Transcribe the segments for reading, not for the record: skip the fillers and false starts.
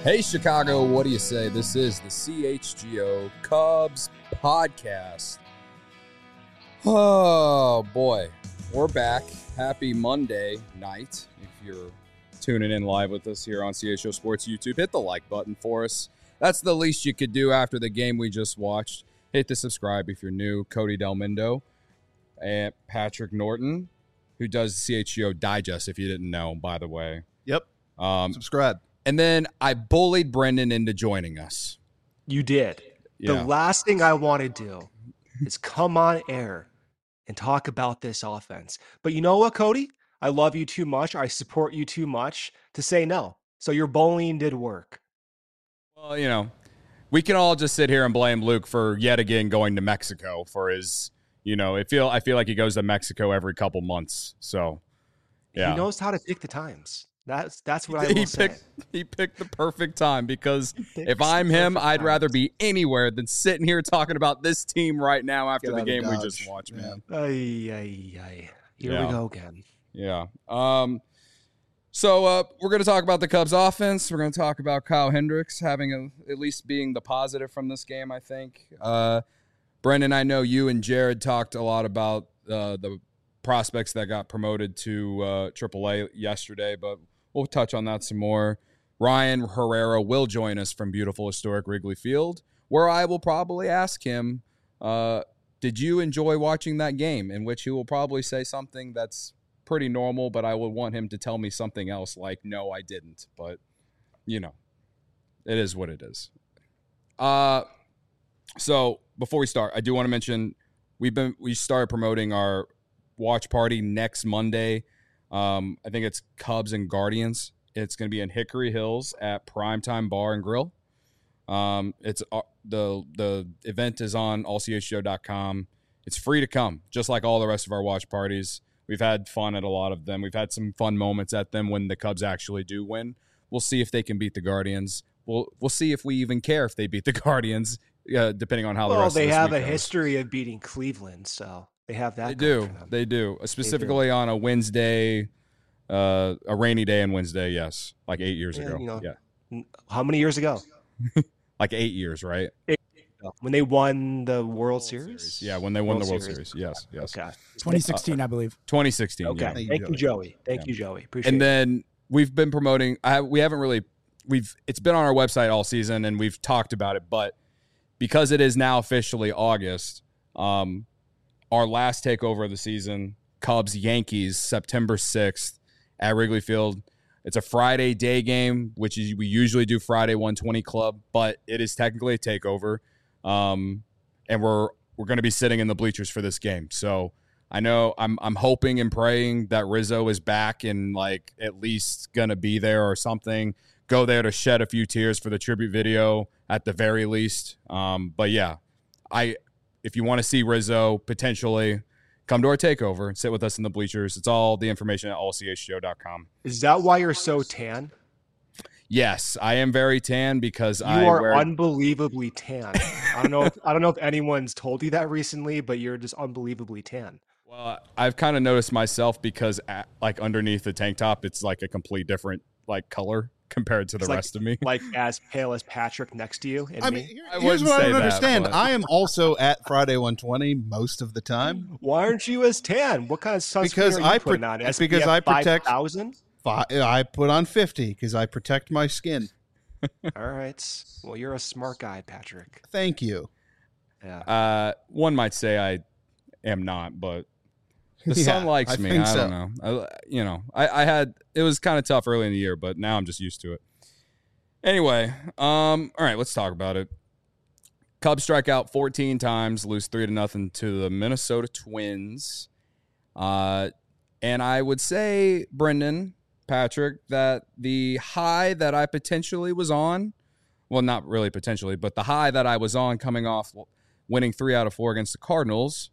Hey, Chicago, what do you say? This is the CHGO Cubs podcast. Oh, boy. We're back. Happy Monday night. If you're tuning in live with us here on CHGO Sports YouTube, hit the like button for us. That's the least you could do after the game we just watched. Hit the subscribe if you're new. Cody Delmindo and Patrick Norton, who does CHGO Digest, if you didn't know, by the way. Yep. Subscribe. And then I bullied Brendan into joining us. You did. Yeah. The last thing I want to do is come on air and talk about this offense. But you know what, Cody? I love you too much. I support you too much to say no. So your bullying did work. Well, you know, we can all just sit here and blame Luke for yet again going to Mexico for his, you know, I feel like he goes to Mexico every couple months. So, yeah. He knows how to pick the times. That's what I will say. He picked the perfect time because if I'm him, I'd rather be anywhere than sitting here talking about this team right now after the game we just watched, man. Here we go again. Yeah. So we're going to talk about the Cubs offense. We're going to talk about Kyle Hendricks having at least being the positive from this game, I think. Brendan, I know you and Jared talked a lot about the prospects that got promoted to AAA yesterday, but we'll touch on that some more. Ryan Herrera will join us from beautiful historic Wrigley Field, where I will probably ask him, did you enjoy watching that game? In which he will probably say something that's pretty normal, but I would want him to tell me something else like, no, I didn't. But, you know, it is what it is. So before we start, I do want to mention we started promoting our watch party next Monday. I think it's Cubs and Guardians. It's going to be in Hickory Hills at Primetime Bar and Grill. It's the event is on allchgo.com. It's free to come, just like all the rest of our watch parties. We've had fun at a lot of them. We've had some fun moments at them when the Cubs actually do win. We'll see if they can beat the Guardians. We'll see if we even care if they beat the Guardians, depending on how the rest of this week goes. Well, they have a history of beating Cleveland, so they have that. They do. Specifically on a Wednesday, a rainy day on Wednesday, yes. Like 8 years ago. You know, how many years ago? Like 8 years, right? When they won the World Series? Yeah, when they won the World Series. Yes. Okay. 2016, I believe. 2016, okay. Yeah. Thank you, Joey. Thank you, Joey. Appreciate it. And then we've been promoting it's been on our website all season and we've talked about it, but because it is now officially August, our last takeover of the season, Cubs-Yankees, September 6th at Wrigley Field. It's a Friday day game, which is we usually do Friday 120 Club, but it is technically a takeover. And we're going to be sitting in the bleachers for this game. So I know I'm hoping and praying that Rizzo is back and like at least going to be there or something. Go there to shed a few tears for the tribute video at the very least. But yeah, if you want to see Rizzo potentially come to our takeover and sit with us in the bleachers, it's all the information at allchgo.com. Is that why you're so tan? Yes, I am very tan because you are unbelievably tan. I don't know if anyone's told you that recently, but you're just unbelievably tan. Well, I've kind of noticed myself because like underneath the tank top, it's like a complete different like color compared to the rest of me. Like as pale as Patrick next to you. And here's what I don't understand. I am also at Friday 120 most of the time. Why aren't you as tan? What kind of sunscreen are you putting on? SPF because I protect 5,000? I put on 50 because I protect my skin. All right. Well, you're a smart guy, Patrick. Thank you. Yeah. One might say I am not, but the sun likes me. I don't know. I had it was kind of tough early in the year, but now I'm just used to it. Anyway, all right, let's talk about it. Cubs strike out 14 times, lose 3-0 to the Minnesota Twins. And I would say, Brendan, Patrick, that the high that I potentially was on, well, not really potentially, but the high that I was on coming off winning 3 out of 4 against the Cardinals,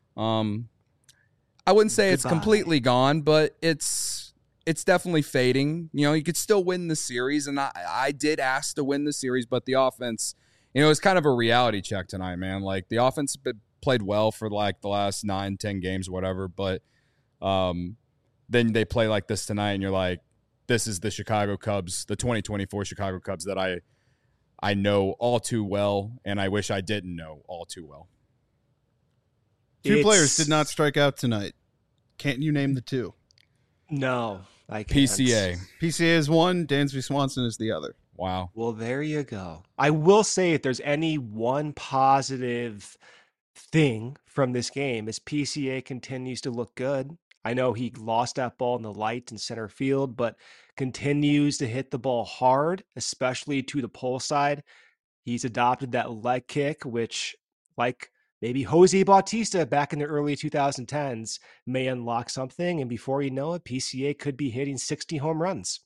I wouldn't say it's completely gone, but it's definitely fading. You know, you could still win the series, and I did ask to win the series, but the offense, you know, it's kind of a reality check tonight, man. Like, the offense played well for, like, the last 9-10 games or whatever, but then they play like this tonight, and you're like, this is the Chicago Cubs, the 2024 Chicago Cubs that I know all too well, and I wish I didn't know all too well. Two players did not strike out tonight. Can't you name the two? No, I can't. PCA. PCA is one. Dansby Swanson is the other. Wow. Well, there you go. I will say if there's any one positive thing from this game is PCA continues to look good. I know he lost that ball in the light in center field, but continues to hit the ball hard, especially to the pull side. He's adopted that leg kick, which, like maybe Jose Bautista back in the early 2010s, may unlock something. And before you know it, PCA could be hitting 60 home runs.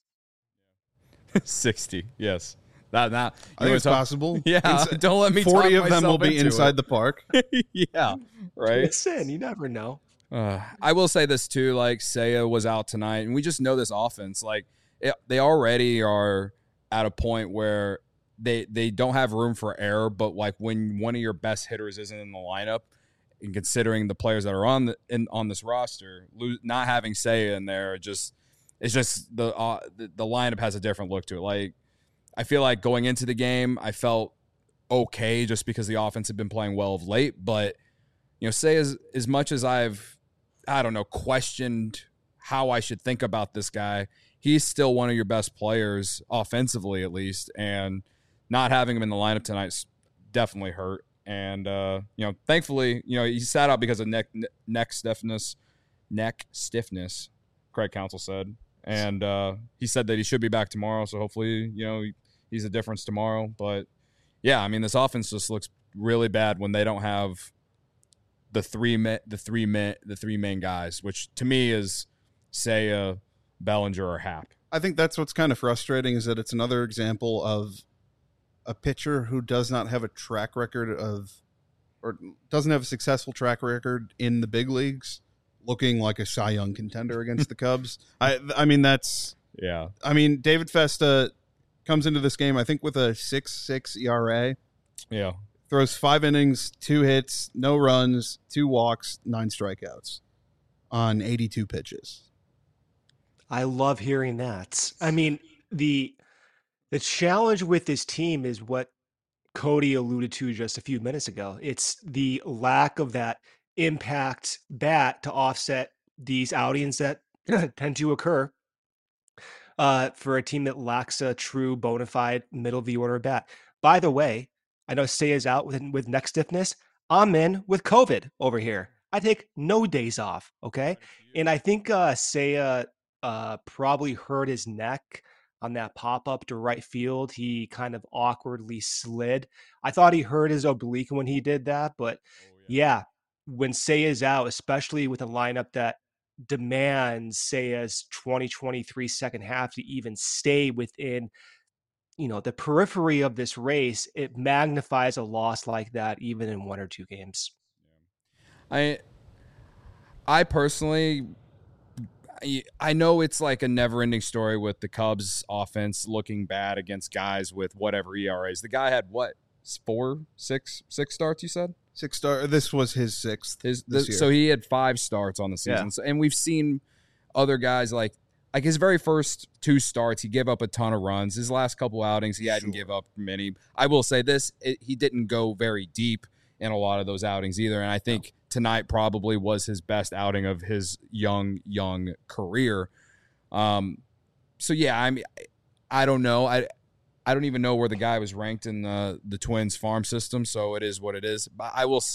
60, yes. That I think it's possible. Yeah, don't let me 40 talk of them will be inside the park. Yeah, right. Listen, you never know. I will say this too, like Seiya was out tonight, and we just know this offense. Like they already are at a point where they don't have room for error. But like when one of your best hitters isn't in the lineup, and considering the players that are on this roster, not having Seiya in there it's just the lineup has a different look to it. Like I feel like going into the game, I felt okay just because the offense had been playing well of late. But say as much as I've questioned how I should think about this guy, he's still one of your best players offensively, at least. And not having him in the lineup tonight definitely hurt. And thankfully, he sat out because of neck stiffness. Craig Counsell said. And he said that he should be back tomorrow, so hopefully, he's a difference tomorrow. But yeah, I mean, this offense just looks really bad when they don't have the three main guys, which to me is Seiya, Bellinger, or Happ. I think that's what's kind of frustrating is that it's another example of a pitcher who does not have a track record or doesn't have a successful track record in the big leagues, looking like a Cy Young contender against the Cubs. I mean, that's... Yeah. I mean, David Festa comes into this game, I think, with a 6.6 ERA. Yeah. Throws 5 innings, 2 hits, no runs, 2 walks, 9 strikeouts on 82 pitches. I love hearing that. I mean, the challenge with this team is what Cody alluded to just a few minutes ago. It's the lack of that impact bat to offset these outings that tend to occur for a team that lacks a true bona fide middle of the order bat. By the way, I know Seiya's out with neck stiffness. I'm in with COVID over here. I take no days off, okay? And I think Seiya probably hurt his neck on that pop-up to right field. He kind of awkwardly slid. I thought he hurt his oblique when he did that, but yeah, when Seiya's out, especially with a lineup that demands Seiya's 2023 second half to even stay within the periphery of this race, it magnifies a loss like that even in 1 or 2 games. I personally, I know it's like a never-ending story with the Cubs offense looking bad against guys with whatever ERAs. The guy had what, 6 starts, you said? 6 starts. This was his 6th this year. So he had 5 starts on the season. Yeah. So, and we've seen other guys like his very first 2 starts, he gave up a ton of runs. His last couple outings, he hadn't give up many. I will say this, he didn't go very deep in a lot of those outings either. And I think tonight probably was his best outing of his young career. So yeah, I mean, I don't know. I don't even know where the guy was ranked in the Twins farm system. So it is what it is. But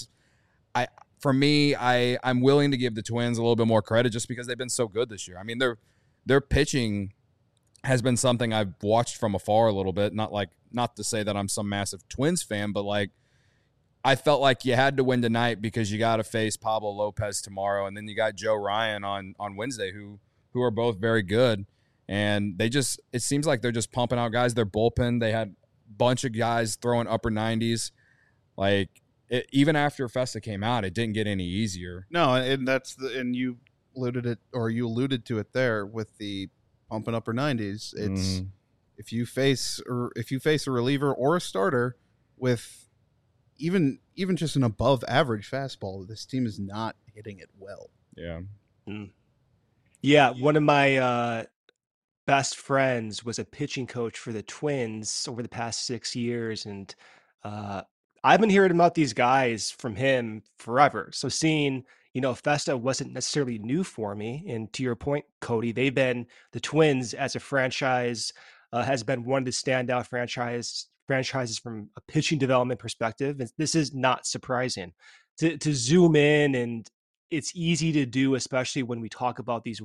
I'm willing to give the Twins a little bit more credit just because they've been so good this year. I mean, their pitching has been something I've watched from afar a little bit. Not to say that I'm some massive Twins fan, but I felt like you had to win tonight because you got to face Pablo Lopez tomorrow, and then you got Joe Ryan on Wednesday, who are both very good. And it seems like they're just pumping out guys. Their bullpen, they had a bunch of guys throwing upper 90s. Even after Festa came out, it didn't get any easier. No, and you alluded to it there with the pumping upper 90s. It's if you face a reliever or a starter with even just an above average fastball, this team is not hitting it well. Yeah. Yeah, one of my best friends was a pitching coach for the Twins over the past 6 years. And uh, I've been hearing about these guys from him forever. So seeing, Festa wasn't necessarily new for me. And to your point, Cody, the Twins as a franchise has been one of the standout franchises from a pitching development perspective. And this is not surprising. To zoom in, and it's easy to do, especially when we talk about these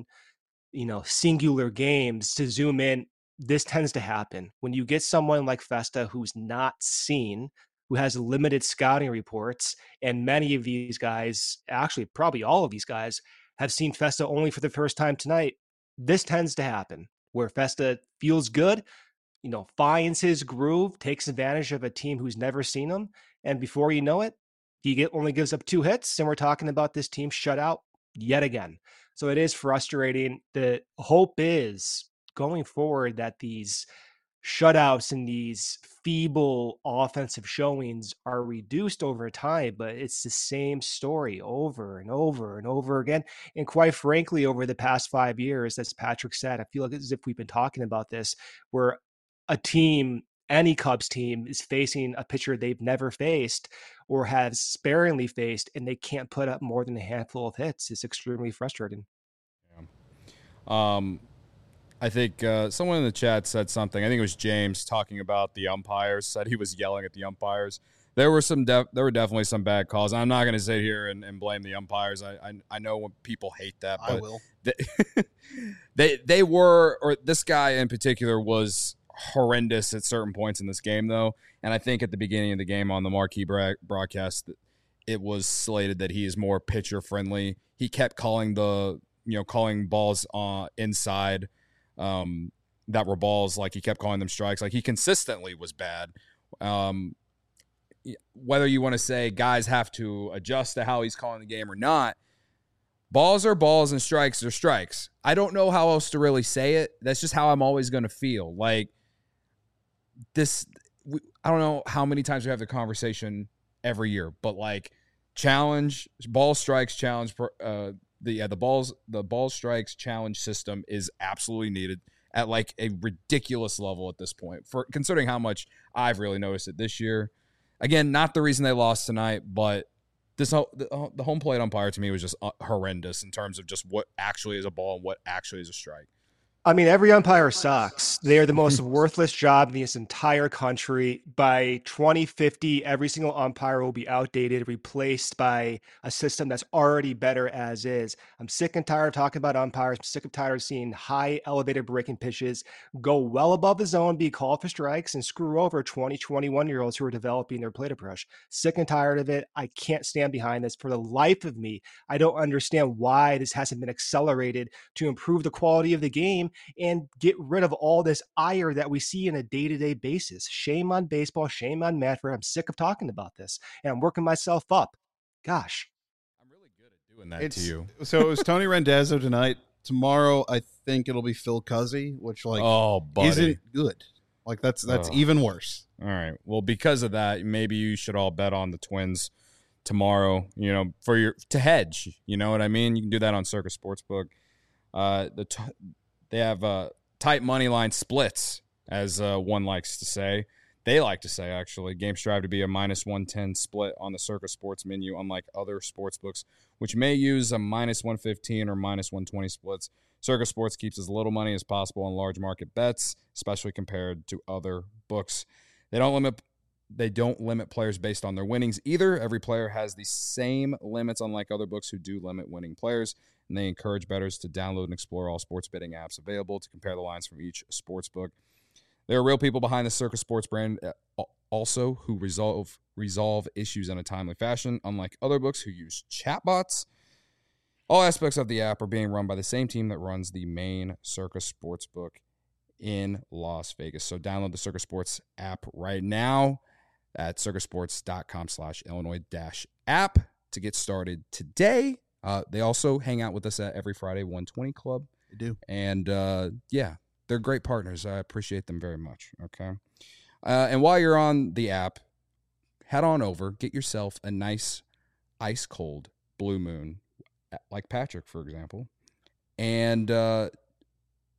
singular games, to zoom in. This tends to happen when you get someone like Festa who's not seen, who has limited scouting reports, and many of these guys, actually probably all of these guys, have seen Festa only for the first time tonight. This tends to happen where Festa feels good, finds his groove, takes advantage of a team who's never seen him, and before you know it, he only gives up 2 hits, and we're talking about this team shut out yet again. So it is frustrating. The hope is going forward that these shutouts and these feeble offensive showings are reduced over time, but it's the same story over and over and over again. And quite frankly, over the past 5 years, as Patrick said, I feel like as if we've been talking about this, where a team, any Cubs team, is facing a pitcher they've never faced or has sparingly faced, and they can't put up more than a handful of hits. It's extremely frustrating. Yeah. I think someone in the chat said something. I think it was James talking about the umpires. Said he was yelling at the umpires. There were definitely some bad calls. I'm not going to sit here and blame the umpires. I know when people hate that, but I will. They were, or this guy in particular was horrendous at certain points in this game, though. And I think at the beginning of the game on the marquee broadcast, it was slated that he is more pitcher friendly. He kept calling calling balls inside that were balls, like he kept calling them strikes. Like he consistently was bad. Whether you want to say guys have to adjust to how he's calling the game or not, balls are balls and strikes are strikes. I don't know how else to really say it. That's just how I'm always going to feel. Like this, I don't know how many times we have the conversation every year, but like challenge, ball strikes challenge, the ball strikes challenge system is absolutely needed at like a ridiculous level at this point, for considering how much I've really noticed it this year. Again, not the reason they lost tonight, but the home plate umpire to me was just horrendous in terms of just what actually is a ball and what actually is a strike. I mean, every umpire sucks. They are the most worthless job in this entire country. By 2050, every single umpire will be outdated, replaced by a system that's already better as is. I'm sick and tired of talking about umpires. I'm sick and tired of seeing high elevated breaking pitches go well above the zone, be called for strikes, and screw over 20, 21-year-olds who are developing their plate approach. Sick and tired of it. I can't stand behind this. For the life of me, I don't understand why this hasn't been accelerated to improve the quality of the game and get rid of all this ire that we see on a day-to-day basis. Shame on baseball. Shame on Manfred. I'm sick of talking about this, and I'm working myself up. Gosh. I'm really good at doing that to you. So it was Tony Randazzo tonight. Tomorrow, I think it'll be Phil Cuzzy, which isn't good. Like that's even worse. All right. Well, because of that, maybe you should all bet on the Twins tomorrow, to hedge. You know what I mean? You can do that on Circus Sportsbook. They have tight money line splits, as one likes to say. They like to say, actually. Games strive to be a -110 split on the Circus Sports menu, unlike other sports books, which may use a -115 or -120 splits. Circus Sports keeps as little money as possible on large market bets, especially compared to other books. They don't limit players based on their winnings either. Every player has the same limits, unlike other books who do limit winning players. And they encourage bettors to download and explore all sports betting apps available to compare the lines from each sports book. There are real people behind the Circus Sports brand also who resolve issues in a timely fashion, unlike other books who use chatbots. All aspects of the app are being run by the same team that runs the main Circus Sportsbook in Las Vegas. So download the Circus Sports app right now at circusports.com/Illinois-app to get started today. They also hang out with us at Every Friday 120 Club. They do. And, they're great partners. I appreciate them very much, okay? And while you're on the app, head on over, get yourself a nice ice-cold Blue Moon, like Patrick, for example, and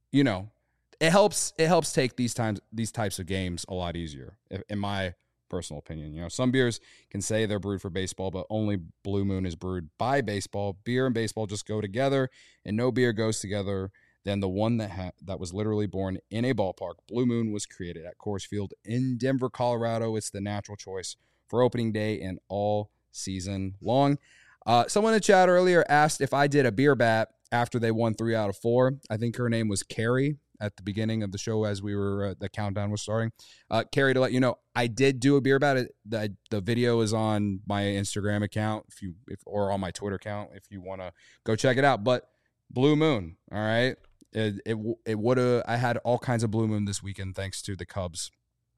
you know, it helps take these types of games a lot easier, in my personal opinion. You know, some beers can say they're brewed for baseball, but only Blue Moon is brewed by baseball. Beer and baseball just go together, and no beer goes together than the one that was literally born in a ballpark. Blue Moon was created at Coors Field in Denver, Colorado. It's the natural choice for opening day and all season long. Someone in the chat earlier asked if I did a beer bat after they won 3 out of 4. I think her name was Carrie at the beginning of the show as we were the countdown was starting. Carrie, to let you know, I did do a beer bat. The video is on my Instagram account or on my Twitter account if you want to go check it out. But Blue Moon, all right. It would have. I had all kinds of Blue Moon this weekend thanks to the Cubs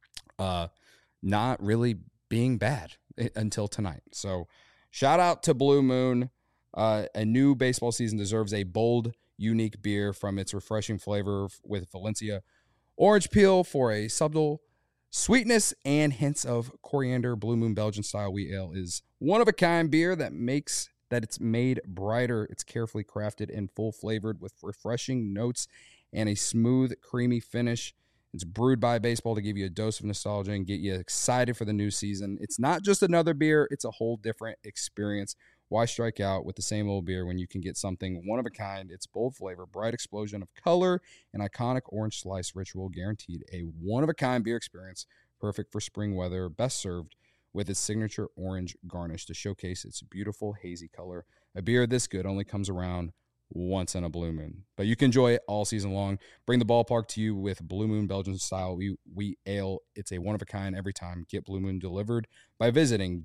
not really being bad until tonight. So shout out to Blue Moon. A new baseball season deserves a bold, unique beer from its refreshing flavor with Valencia orange peel for a subtle sweetness and hints of coriander. Blue Moon Belgian style wheat ale is one of a kind beer that it's made brighter. It's carefully crafted and full flavored with refreshing notes and a smooth, creamy finish. It's brewed by baseball to give you a dose of nostalgia and get you excited for the new season. It's not just another beer. It's a whole different experience. Why strike out with the same old beer when you can get something one of a kind? It's bold flavor, bright explosion of color, and iconic orange slice ritual, guaranteed a one-of-a-kind beer experience, perfect for spring weather, best served with its signature orange garnish to showcase its beautiful hazy color. A beer this good only comes around once in a Blue Moon, but you can enjoy it all season long. Bring the ballpark to you with Blue Moon Belgian style wheat ale. It's a one-of-a-kind every time. Get Blue Moon delivered by visiting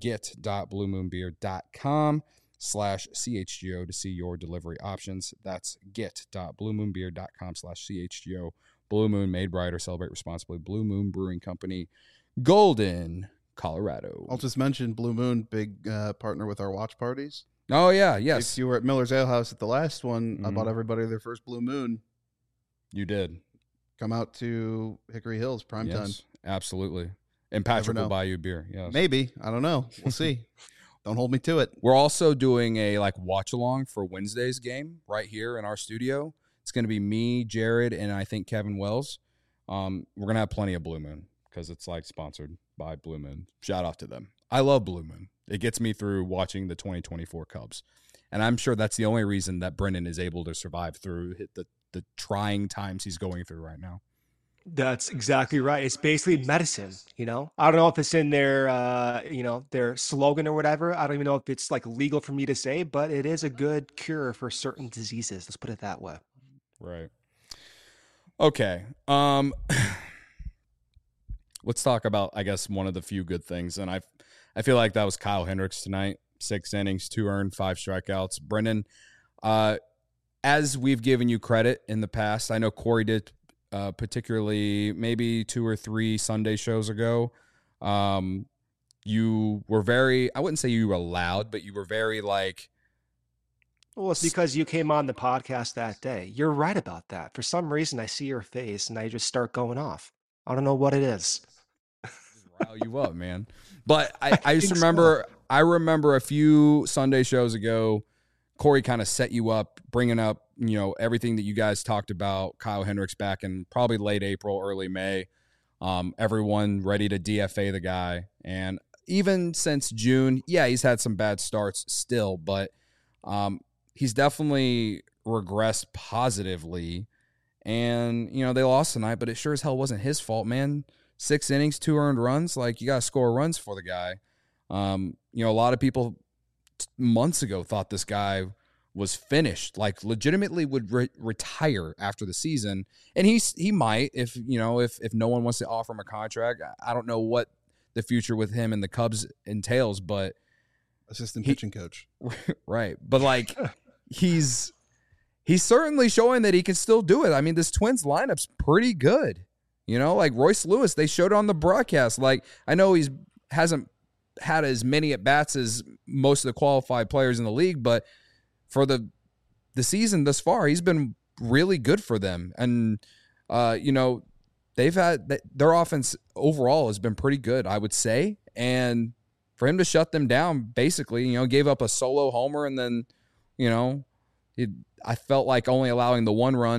get.bluemoonbeer.com/CHGO to see your delivery options. That's get.bluemoonbeer.com/CHGO. Blue Moon, made brighter. Celebrate responsibly. Blue Moon Brewing Company, Golden, Colorado. I'll just mention Blue Moon, big partner with our watch parties. Oh, yeah, yes. If you were at Miller's Ale House at the last one, I bought everybody their first Blue Moon. You did. Come out to Hickory Hills prime time. Absolutely. And Patrick will buy you beer. Yes. Maybe. I don't know. We'll see. Don't hold me to it. We're also doing a watch along for Wednesday's game right here in our studio. It's going to be me, Jared, and I think Kevin Wells. We're going to have plenty of Blue Moon because it's sponsored by Blue Moon. Shout out to them. I love Blue Moon. It gets me through watching the 2024 Cubs. And I'm sure that's the only reason that Brendan is able to survive through the trying times he's going through right now. That's exactly right. It's basically medicine, I don't know if it's in their, their slogan or whatever. I don't even know if it's legal for me to say, but it is a good cure for certain diseases. Let's put it that way. Right. Okay. Let's talk about, I guess, one of the few good things. And I feel like that was Kyle Hendricks tonight. 6 innings, 2 earned, 5 strikeouts. Brendan, as we've given you credit in the past, I know Corey did particularly maybe 2 or 3 Sunday shows ago. You were very, I wouldn't say you were loud, but you were very well, it's because you came on the podcast that day. You're right about that. For some reason, I see your face and I just start going off. I don't know what it is. Rile you up, man. But I just remember, I remember a few Sunday shows ago, Corey kind of set you up, bringing up, everything that you guys talked about, Kyle Hendricks back in probably late April, early May. Everyone ready to DFA the guy. And even since June, he's had some bad starts still, but he's definitely regressed positively. And, they lost tonight, but it sure as hell wasn't his fault, man. 6 innings, 2 earned runs. You got to score runs for the guy. A lot of people months ago thought this guy was finished, legitimately would retire after the season. And he might, if no one wants to offer him a contract. I don't know what the future with him and the Cubs entails, but assistant pitching coach. Right. But he's certainly showing that he can still do it. I mean, this Twins lineup's pretty good. Royce Lewis, they showed on the broadcast. I know he hasn't had as many at-bats as most of the qualified players in the league, but for the season thus far, he's been really good for them. And, they've had their offense overall has been pretty good, I would say. And for him to shut them down, basically, gave up a solo homer and then, I felt like only allowing the 1 run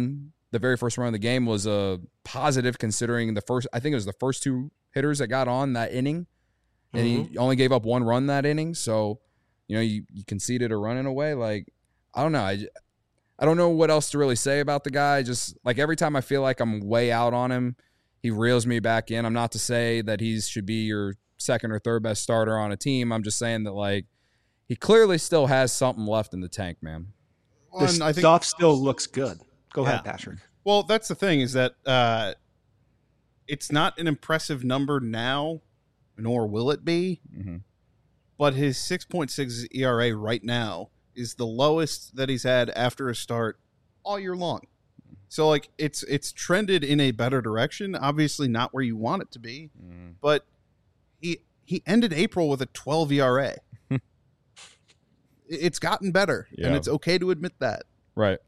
the very first run of the game was a positive considering I think it was the first two hitters that got on that inning, and he only gave up one run that inning. So, you conceded a run in a way. Like, I don't know. I don't know what else to really say about the guy. Just like every time I feel like I'm way out on him, he reels me back in. I'm not to say that he should be your second or third best starter on a team. I'm just saying that, like, he clearly still has something left in the tank, man. The stuff still looks good. Go ahead, Patrick. Well, that's the thing is that it's not an impressive number now, nor will it be. Mm-hmm. But his 6.6 ERA right now is the lowest that he's had after a start all year long. So, like, it's trended in a better direction. Obviously, not where you want it to be, but he ended April with a 12 ERA. It's gotten better, and it's okay to admit that. Right.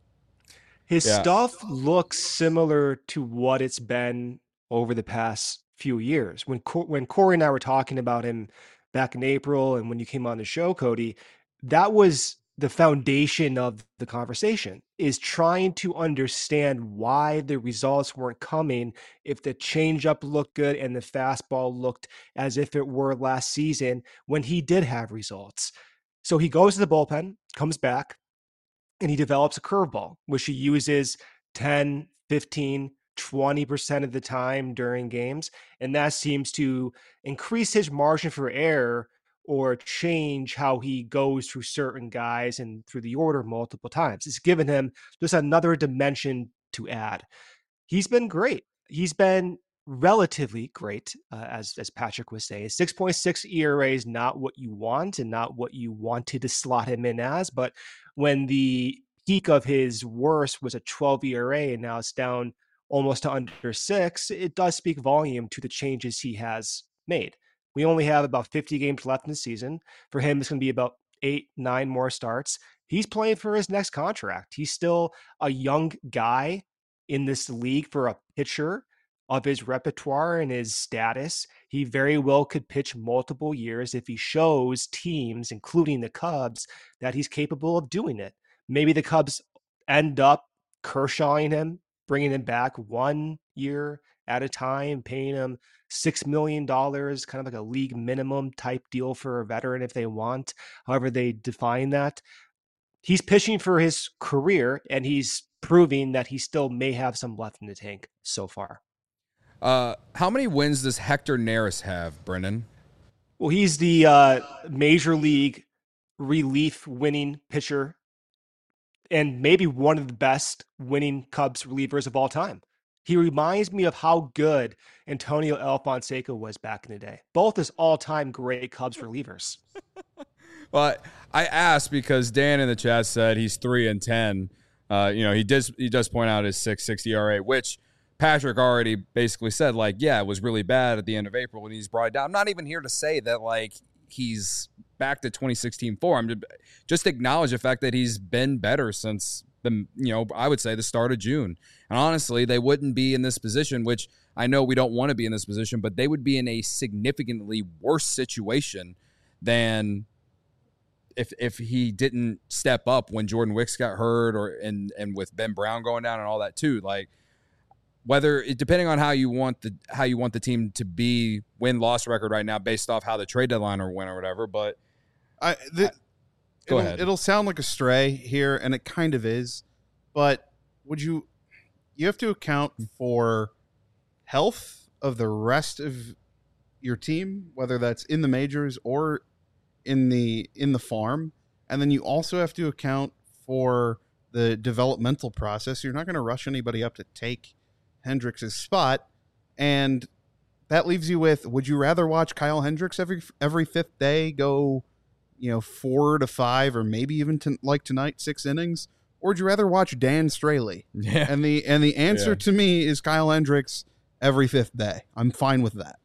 His stuff looks similar to what it's been over the past few years. When Corey and I were talking about him back in April, and when you came on the show, Cody, that was the foundation of the conversation, is trying to understand why the results weren't coming if the changeup looked good and the fastball looked as if it were last season when he did have results. So he goes to the bullpen, comes back, and he develops a curveball, which he uses 10, 15, 20% of the time during games. And that seems to increase his margin for error or change how he goes through certain guys and through the order multiple times. It's given him just another dimension to add. He's been great. He's been relatively great, as Patrick was saying. 6.6 ERA is not what you want and not what you wanted to slot him in as, but when the peak of his worst was a 12 ERA and now it's down almost to under 6, it does speak volume to the changes he has made. We only have about 50 games left in the season. For him, it's going to be about 8, 9 more starts. He's playing for his next contract. He's still a young guy in this league for a pitcher of his repertoire and his status. He very well could pitch multiple years if he shows teams, including the Cubs, that he's capable of doing it. Maybe the Cubs end up Kershawing him, bringing him back 1 year at a time, paying him $6 million, kind of like a league minimum type deal for a veteran if they want, however they define that. He's pitching for his career, and he's proving that he still may have some left in the tank so far. How many wins does Hector Neris have, Brendan? Well, he's the major league relief winning pitcher and maybe one of the best winning Cubs relievers of all time. He reminds me of how good Antonio Alfonseca was back in the day. Both as all-time great Cubs relievers. Well, I asked because Dan in the chat said he's 3-10. He does point out his 6.6 ERA, which Patrick already basically said, like, yeah, it was really bad at the end of April when he's brought it down. I'm not even here to say that, like, he's back to 2016 form. I'm just acknowledge the fact that he's been better since I would say the start of June. And honestly, they wouldn't be in this position, which I know we don't want to be in this position, but they would be in a significantly worse situation than if he didn't step up when Jordan Wicks got hurt and with Ben Brown going down and all that too. Like, depending on how you want the team to be win-loss record right now based off how the trade deadline went or whatever, but go ahead. It'll sound like a stray here, and it kind of is, but you have to account for health of the rest of your team, whether that's in the majors or in the farm, and then you also have to account for the developmental process. You're not going to rush anybody up to take Hendricks' spot, and that leaves you with: would you rather watch Kyle Hendricks every fifth day go 4 to 5 or maybe even like tonight 6 innings, or would you rather watch Dan Straley? Yeah. And the answer to me is Kyle Hendricks every fifth day. I'm fine with that.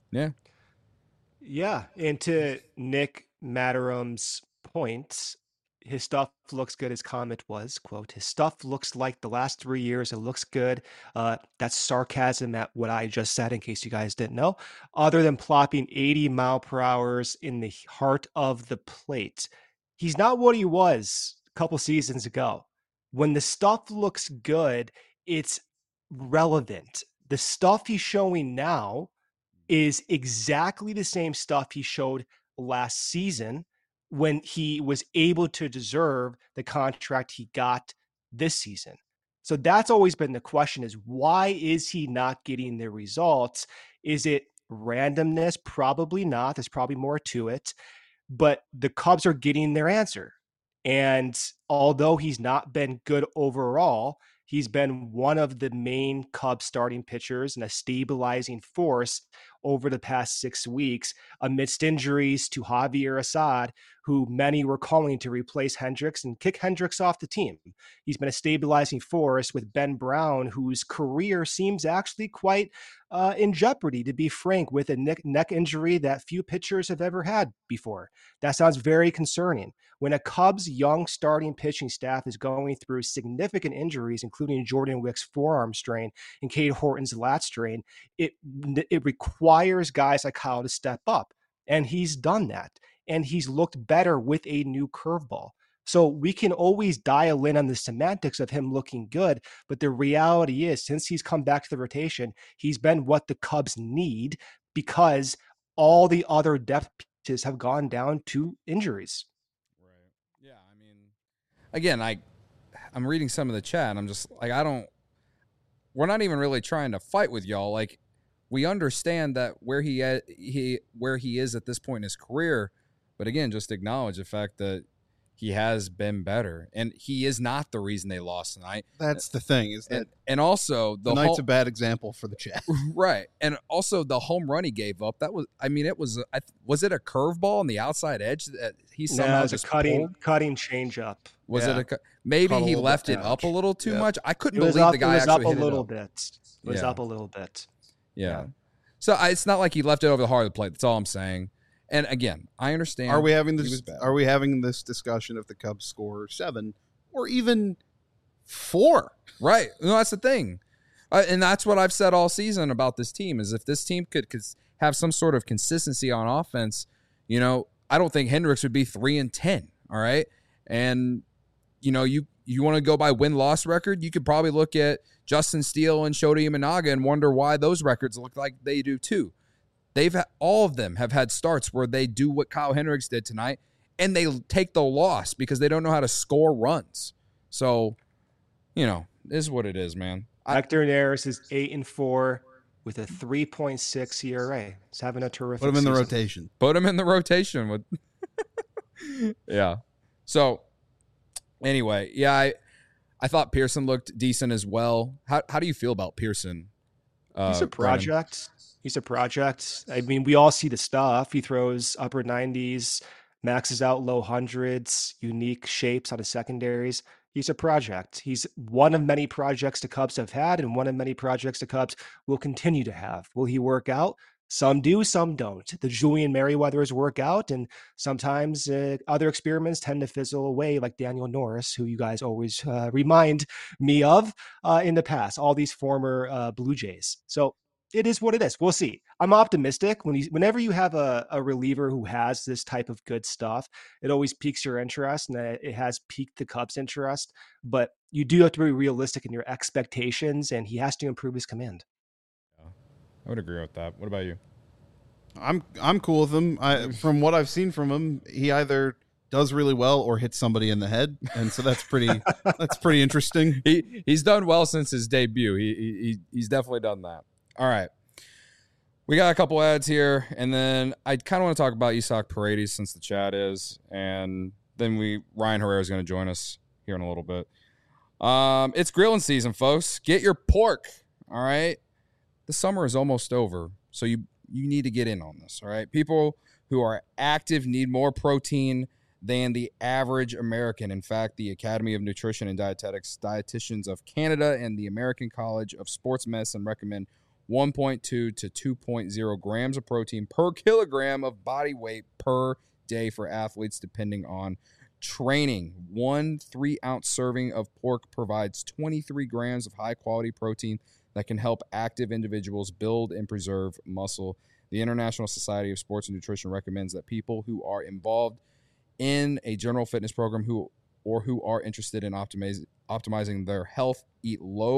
Yeah, and to Nick Matterum's point, his stuff looks good. His comment was, quote, his stuff looks like the last 3 years. It looks good. That's sarcasm at what I just said, in case you guys didn't know. Other than plopping 80 mile per hours in the heart of the plate, he's not what he was a couple seasons ago. When the stuff looks good, it's relevant. The stuff he's showing now is exactly the same stuff he showed last season when he was able to deserve the contract he got this season. So that's always been the question, is why is he not getting the results? Is it randomness? Probably not. There's probably more to it. But the Cubs are getting their answer. And although he's not been good overall, he's been one of the main Cubs starting pitchers and a stabilizing force over the past 6 weeks amidst injuries to Javier Assad, who many were calling to replace Hendricks and kick Hendricks off the team. He's been a stabilizing force with Ben Brown, whose career seems actually quite in jeopardy, to be frank, with a neck injury that few pitchers have ever had before. That sounds very concerning. When a Cubs young starting pitching staff is going through significant injuries, including Jordan Wick's forearm strain and Cade Horton's lat strain, it requires guys like Kyle to step up. And he's done that. And he's looked better with a new curveball. So we can always dial in on the semantics of him looking good, but the reality is, since he's come back to the rotation, he's been what the Cubs need because all the other depth pieces have gone down to injuries. Right. Yeah, I mean, again, I'm reading some of the chat, and I'm just like, we're not even really trying to fight with y'all. Like, we understand that where he is at this point in his career, but again, just acknowledge the fact that he has been better, and he is not the reason they lost tonight. That's the thing, is that and also tonight's a bad example for the chat, right? And also the home run he gave up. That was, I mean, was it a curveball on the outside edge that he somehow just cutting changeup? Was it maybe he left it up a little too much? I couldn't believe the guy actually hit it up. It was up a little bit. Yeah. So it's not like he left it over the heart of the plate. That's all I'm saying. And again, I understand. Are we having this discussion if the Cubs score 7 or even 4? Right. No, that's the thing. And that's what I've said all season about this team, is if this team could have some sort of consistency on offense, I don't think Hendricks would be 3-10. All right. And, you want to go by win-loss record, you could probably look at Justin Steele and Shota Imanaga and wonder why those records look like they do too. All of them have had starts where they do what Kyle Hendricks did tonight, and they take the loss because they don't know how to score runs. So, it is what it is, man. Hector Neris is 8-4 with a 3.6 ERA. He's having a terrific season. Put him in the rotation. with yeah. So anyway, yeah, I thought Pearson looked decent as well. How do you feel about Pearson? He's a project. Brennan? He's a project. I mean, we all see the stuff. He throws upper 90s, maxes out low hundreds, unique shapes on his secondaries. He's a project. He's one of many projects the Cubs have had, and one of many projects the Cubs will continue to have. Will he work out? Some do, some don't. The Julian Merryweathers work out, and sometimes other experiments tend to fizzle away, like Daniel Norris, who you guys always remind me of in the past, all these former Blue Jays. So it is what it is. We'll see. I'm optimistic. Whenever you have a reliever who has this type of good stuff, it always piques your interest, and it has piqued the Cubs' interest. But you do have to be realistic in your expectations, and he has to improve his command. I would agree with that. What about you? I'm cool with him. From what I've seen from him, he either does really well or hits somebody in the head, and so that's pretty interesting. He's done well since his debut. He's definitely done that. All right. We got a couple ads here, and then I kind of want to talk about Isaac Paredes since the chat is, and then Ryan Herrera is going to join us here in a little bit. It's grilling season, folks. Get your pork, all right? The summer is almost over, so you need to get in on this, all right? People who are active need more protein than the average American. In fact, the Academy of Nutrition and Dietetics, Dietitians of Canada, and the American College of Sports Medicine recommend 1.2 to 2.0 grams of protein per kilogram of body weight per day for athletes, depending on training. 1 3-ounce serving of pork provides 23 grams of high-quality protein that can help active individuals build and preserve muscle. The International Society of Sports and Nutrition recommends that people who are involved in a general fitness program who are interested in optimizing their health eat low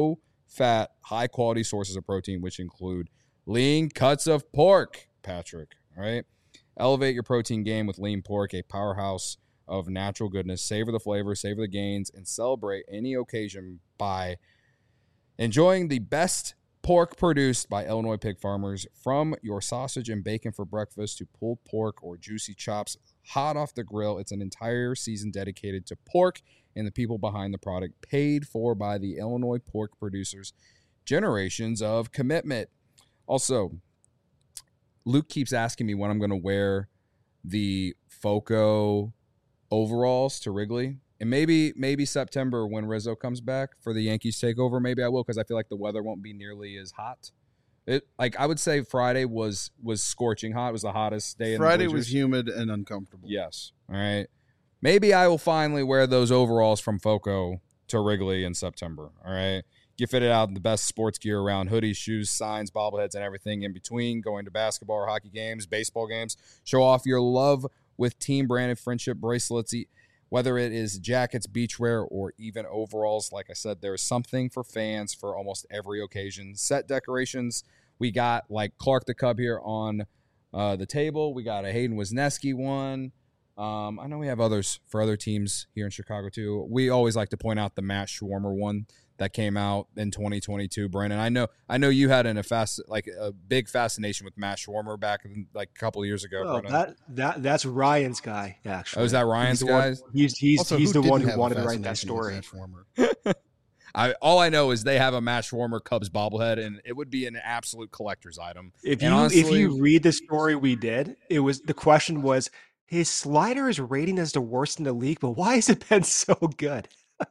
fat, high-quality sources of protein, which include lean cuts of pork, Patrick, all right? Elevate your protein game with lean pork, a powerhouse of natural goodness. Savor the flavor, savor the gains, and celebrate any occasion by enjoying the best pork produced by Illinois pig farmers. From your sausage and bacon for breakfast to pulled pork or juicy chops hot off the grill, it's an entire season dedicated to pork and the people behind the product, paid for by the Illinois pork producers. Generations of commitment. Also, Luke keeps asking me when I'm going to wear the Foco overalls to Wrigley. And maybe September when Rizzo comes back for the Yankees takeover, maybe I will, because I feel like the weather won't be nearly as hot. I would say Friday was scorching hot. It was the hottest day. Friday was humid and uncomfortable. Yes. All right. Maybe I will finally wear those overalls from Foco to Wrigley in September. All right. Get fitted out in the best sports gear around: hoodies, shoes, signs, bobbleheads, and everything in between. Going to basketball or hockey games, baseball games. Show off your love with team-branded friendship bracelets. Whether it is jackets, beachwear, or even overalls, like I said, there's something for fans for almost every occasion. Set decorations, we got like Clark the Cub here on the table. We got a Hayden Wisniewski one. I know we have others for other teams here in Chicago too. We always like to point out the Matt Schwarmer one that came out in 2022. Brandon, I know you had a big fascination with Matt Schwarmer back like a couple of years ago. Oh, that's Ryan's guy, actually. Oh, is that Ryan's guy? He's the one who wanted to write that story. All I know is they have a Matt Schwarmer Cubs bobblehead, and it would be an absolute collector's item. If you read the story we did, the question was, his slider is rating as the worst in the league, but why has it been so good?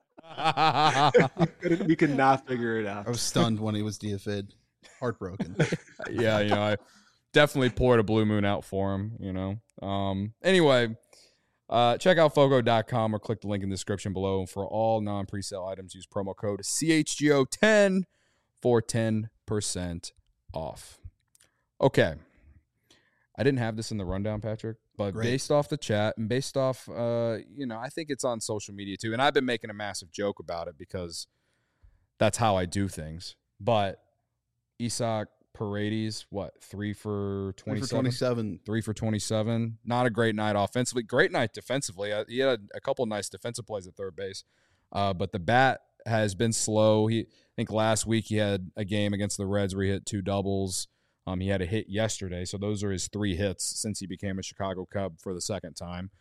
we could not figure it out. I was stunned when he was DFA'd. Heartbroken. Yeah, I definitely poured a Blue Moon out for him, Anyway, check out Fogo.com or click the link in the description below. For all non-presale items, use promo code CHGO10 for 10% off. Okay. I didn't have this in the rundown, Patrick, but based off the chat and based off, I think it's on social media too. And I've been making a massive joke about it because that's how I do things. But Isaac Paredes, 3 for 27? 3 for 27. Not a great night offensively. Great night defensively. He had a couple nice defensive plays at third base. But the bat has been slow. I think last week he had a game against the Reds where he hit 2 doubles. He had a hit yesterday, so those are his 3 hits since he became a Chicago Cub for the second time.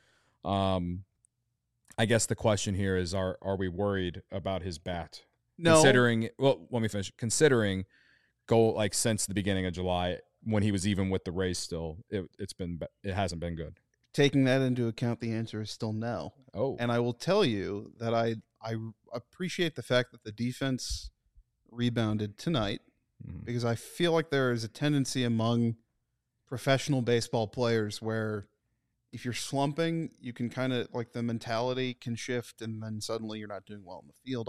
I guess the question here is, are we worried about his bat? No. Let me finish. Considering since the beginning of July when he was even with the Rays still, it hasn't been good. Taking that into account, the answer is still no. Oh. And I will tell you that I appreciate the fact that the defense rebounded tonight. Because I feel like there is a tendency among professional baseball players where if you're slumping, you can kind of the mentality can shift and then suddenly you're not doing well in the field.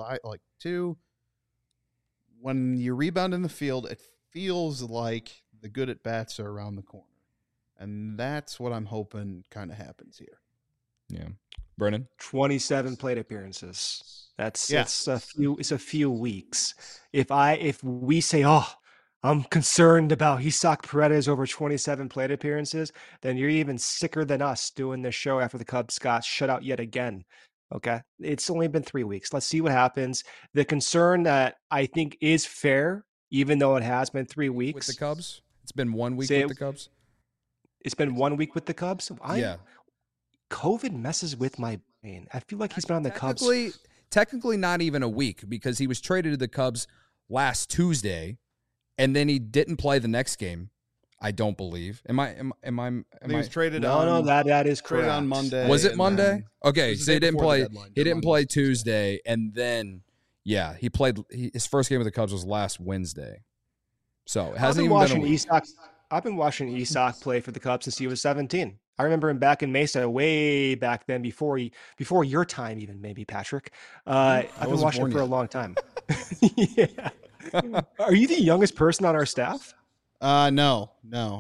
When you rebound in the field, it feels like the good at bats are around the corner. And that's what I'm hoping kind of happens here. Yeah. Brennan? 27 plate appearances. It's a few weeks. If we say, I'm concerned about Isaac Paredes over 27 plate appearances, then you're even sicker than us doing this show after the Cubs got shut out yet again. Okay. It's only been 3 weeks. Let's see what happens. The concern that I think is fair, even though it has been 3 weeks. With the Cubs? It's been 1 week with the Cubs? It's been 1 week with the Cubs? Yeah. COVID messes with my brain. I feel like he's been on the Cubs. Technically not even a week, because he was traded to the Cubs last Tuesday, and then he didn't play the next game. I don't believe. He was traded on. No, that is correct. On Monday. Was it Monday? Okay, so he didn't play. He didn't play Tuesday, and then he played. His first game with the Cubs was last Wednesday. So it hasn't even been a week. I've been watching Isaac play for the Cubs since he was 17. I remember him back in Mesa way back then, before your time, even maybe, Patrick. I've been watching him for a long time. Yeah. Are you the youngest person on our staff? No.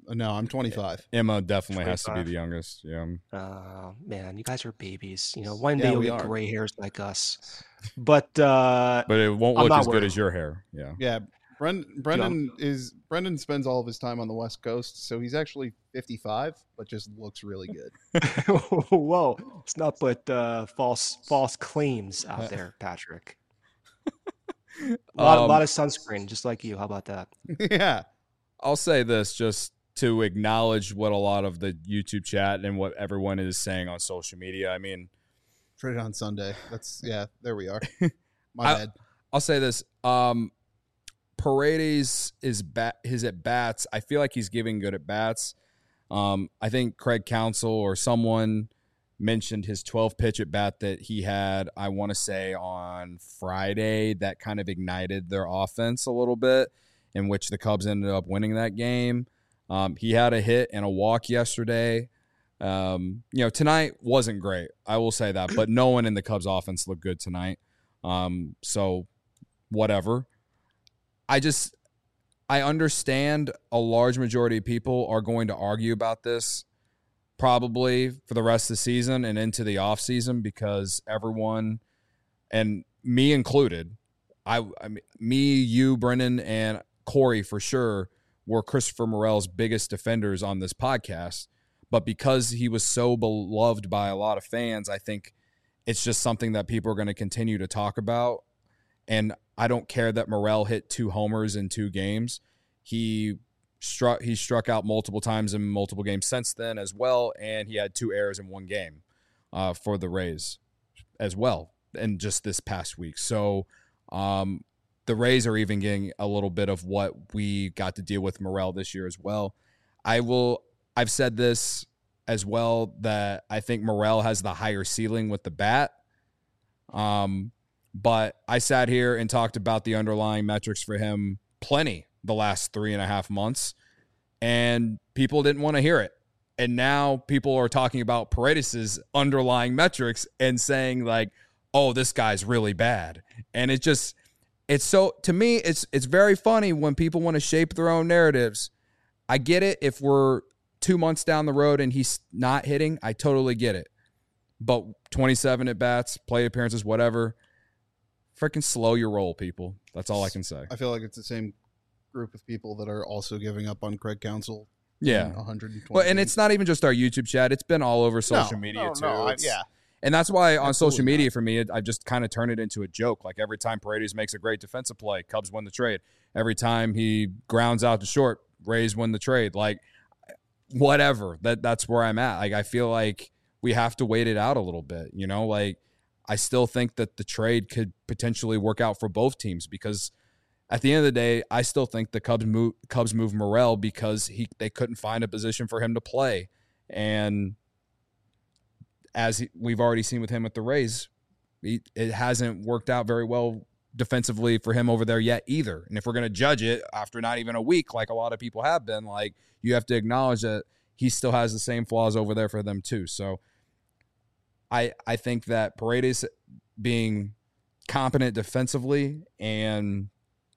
No, I'm 25. Emma definitely has to be 25. the youngest. Yeah. Man, you guys are babies. One Yeah, day you'll we get are. gray hairs like us. But But it won't I'm look not as good worried. as your hair. Yeah. Yeah, Brendan spends all of his time on the West Coast, so he's actually 55, but just looks really good. Whoa, let's not put false claims out there, Patrick. A lot of sunscreen, just like you. How about that? Yeah. I'll say this just to acknowledge what a lot of the YouTube chat and what everyone is saying on social media. I mean, Trade on Sunday. There we are. My bad. I'll say this. Paredes his at bats. I feel like he's giving good at bats. I think Craig Counsell or someone mentioned his 12 pitch at bat that he had, I want to say on Friday, that kind of ignited their offense a little bit, in which the Cubs ended up winning that game. He had a hit and a walk yesterday. Tonight wasn't great. I will say that, but no one in the Cubs offense looked good tonight. So whatever. I understand a large majority of people are going to argue about this probably for the rest of the season and into the offseason because everyone, and me included, me, you, Brendan, and Corey for sure were Christopher Morel's biggest defenders on this podcast. But because he was so beloved by a lot of fans, I think it's just something that people are going to continue to talk about. And I don't care that Morel hit 2 homers in 2 games. He struck out multiple times in multiple games since then as well, and he had 2 errors in 1 game for the Rays as well, and just this past week. So the Rays are even getting a little bit of what we got to deal with Morel this year as well. I've said this as well, that I think Morel has the higher ceiling with the bat. But I sat here and talked about the underlying metrics for him plenty the last 3.5 months, and people didn't want to hear it. And now people are talking about Paredes' underlying metrics and saying like, oh, this guy's really bad. And to me, it's very funny when people want to shape their own narratives. I get it. If we're 2 months down the road and he's not hitting, I totally get it. But 27 at bats, plate appearances, whatever, freaking slow your roll, people. That's all I can say. I feel like it's the same group of people that are also giving up on Craig Counsell. Yeah. 120. Well, and it's not even just our YouTube chat. It's been all over social media too. And that's why on social media for me, I've just kind of turned it into a joke. Like every time Paredes makes a great defensive play, Cubs win the trade. Every time he grounds out to short, Rays win the trade. Like whatever. That's where I'm at. Like I feel like we have to wait it out a little bit. Like I still think that the trade could potentially work out for both teams because at the end of the day, I still think the Cubs move Morel because they couldn't find a position for him to play. And we've already seen with him at the Rays, it hasn't worked out very well defensively for him over there yet either. And if we're going to judge it after not even a week, like a lot of people have been, like you have to acknowledge that he still has the same flaws over there for them too. So I think that Paredes being competent defensively and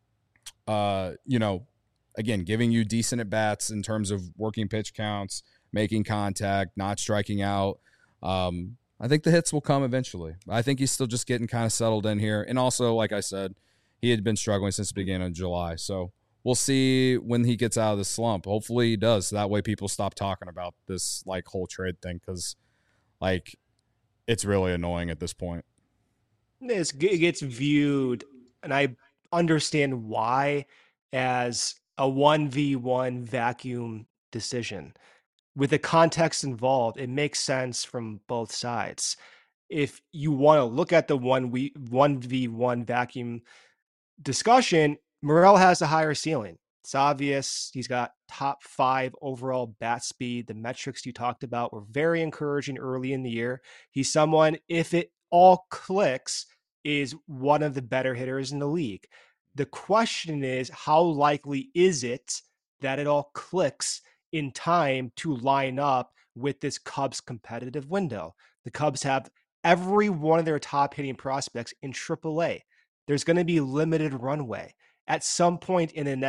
again, giving you decent at bats in terms of working pitch counts, making contact, not striking out. I think the hits will come eventually. I think he's still just getting kind of settled in here. And also, like I said, he had been struggling since the beginning of July. So we'll see when he gets out of the slump. Hopefully he does. So that way people stop talking about this like whole trade thing because like it's really annoying at this point. It gets viewed, and I understand why, as a 1v1 vacuum decision. With the context involved, it makes sense from both sides. If you want to look at the 1v1 vacuum discussion, Morel has a higher ceiling. It's obvious. He's got top 5 overall bat speed. The metrics you talked about were very encouraging early in the year. He's someone, if it all clicks, is one of the better hitters in the league. The question is, how likely is it that it all clicks in time to line up with this Cubs competitive window? The Cubs have every one of their top hitting prospects in AAA. There's going to be limited runway. At some point in the next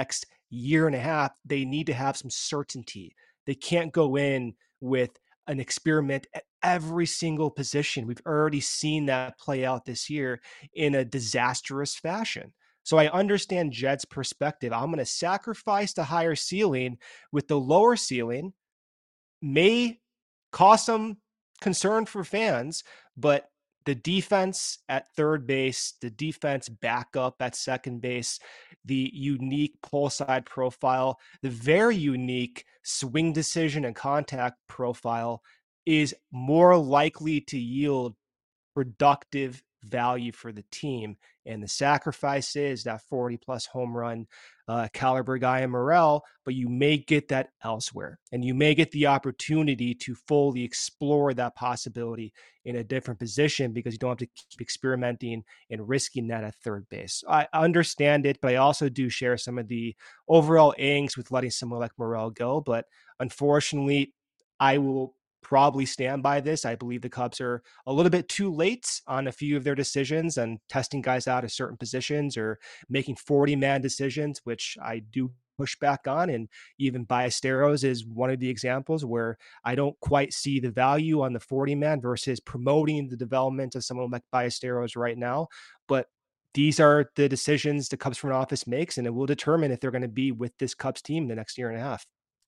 year and a half, they need to have some certainty. They can't go in with an experiment at every single position. We've already seen that play out this year in a disastrous fashion. So I understand Jed's perspective. I'm going to sacrifice the higher ceiling with the lower ceiling. May cause some concern for fans, but the defense at third base, the defense backup at second base, the unique pull side profile, the very unique swing decision and contact profile is more likely to yield productive value for the team. And the sacrifice is that 40 plus home run caliber guy in Morel, but you may get that elsewhere. And you may get the opportunity to fully explore that possibility in a different position because you don't have to keep experimenting and risking that at third base. I understand it, but I also do share some of the overall angst with letting someone like Morel go. But unfortunately, I will probably stand by this. I believe the Cubs are a little bit too late on a few of their decisions and testing guys out of certain positions or making 40-man decisions, which I do push back on. And even Ballesteros is one of the examples where I don't quite see the value on the 40-man versus promoting the development of someone like Ballesteros right now. But these are the decisions the Cubs front office makes, and it will determine if they're going to be with this Cubs team the next year and a half.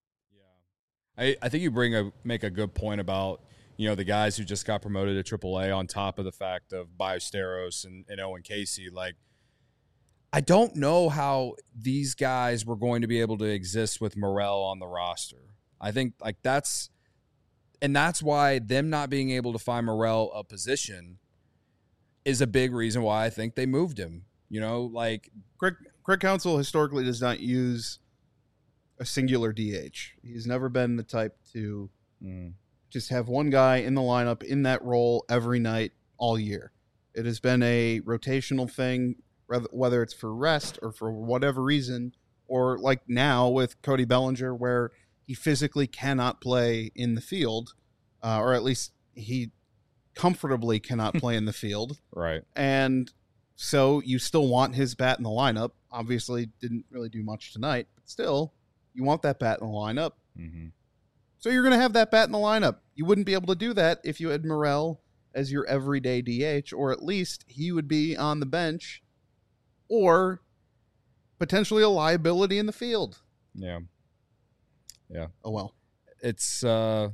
I think you make a good point about, the guys who just got promoted to AAA on top of the fact of Ballesteros and Owen Casey. Like, I don't know how these guys were going to be able to exist with Morel on the roster. I think that's why them not being able to find Morel a position is a big reason why I think they moved him. Craig Counsell historically does not use a singular DH. He's never been the type to just have one guy in the lineup in that role every night all year. It has been a rotational thing, whether it's for rest or for whatever reason, or like now with Cody Bellinger, where he physically cannot play in the field, or at least he comfortably cannot play in the field. Right. And so you still want his bat in the lineup. Obviously didn't really do much tonight, but still, you want that bat in the lineup. Mm-hmm. So you're going to have that bat in the lineup. You wouldn't be able to do that if you had Morel as your everyday DH, or at least he would be on the bench or potentially a liability in the field. Yeah. Yeah. Oh, well. It's a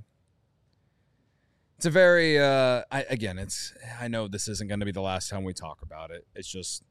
very, I know this isn't going to be the last time we talk about it. It's just,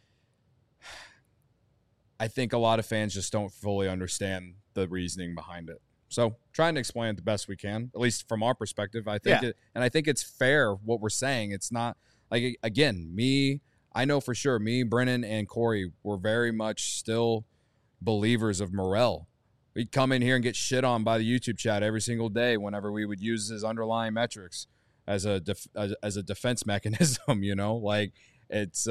I think a lot of fans just don't fully understand the reasoning behind it. So trying to explain it the best we can, at least from our perspective. I think I think it's fair what we're saying. It's not like, again, I know for sure Brennan and Corey were very much still believers of Morel. We'd come in here and get shit on by the YouTube chat every single day whenever we would use his underlying metrics as a defense mechanism, like it's,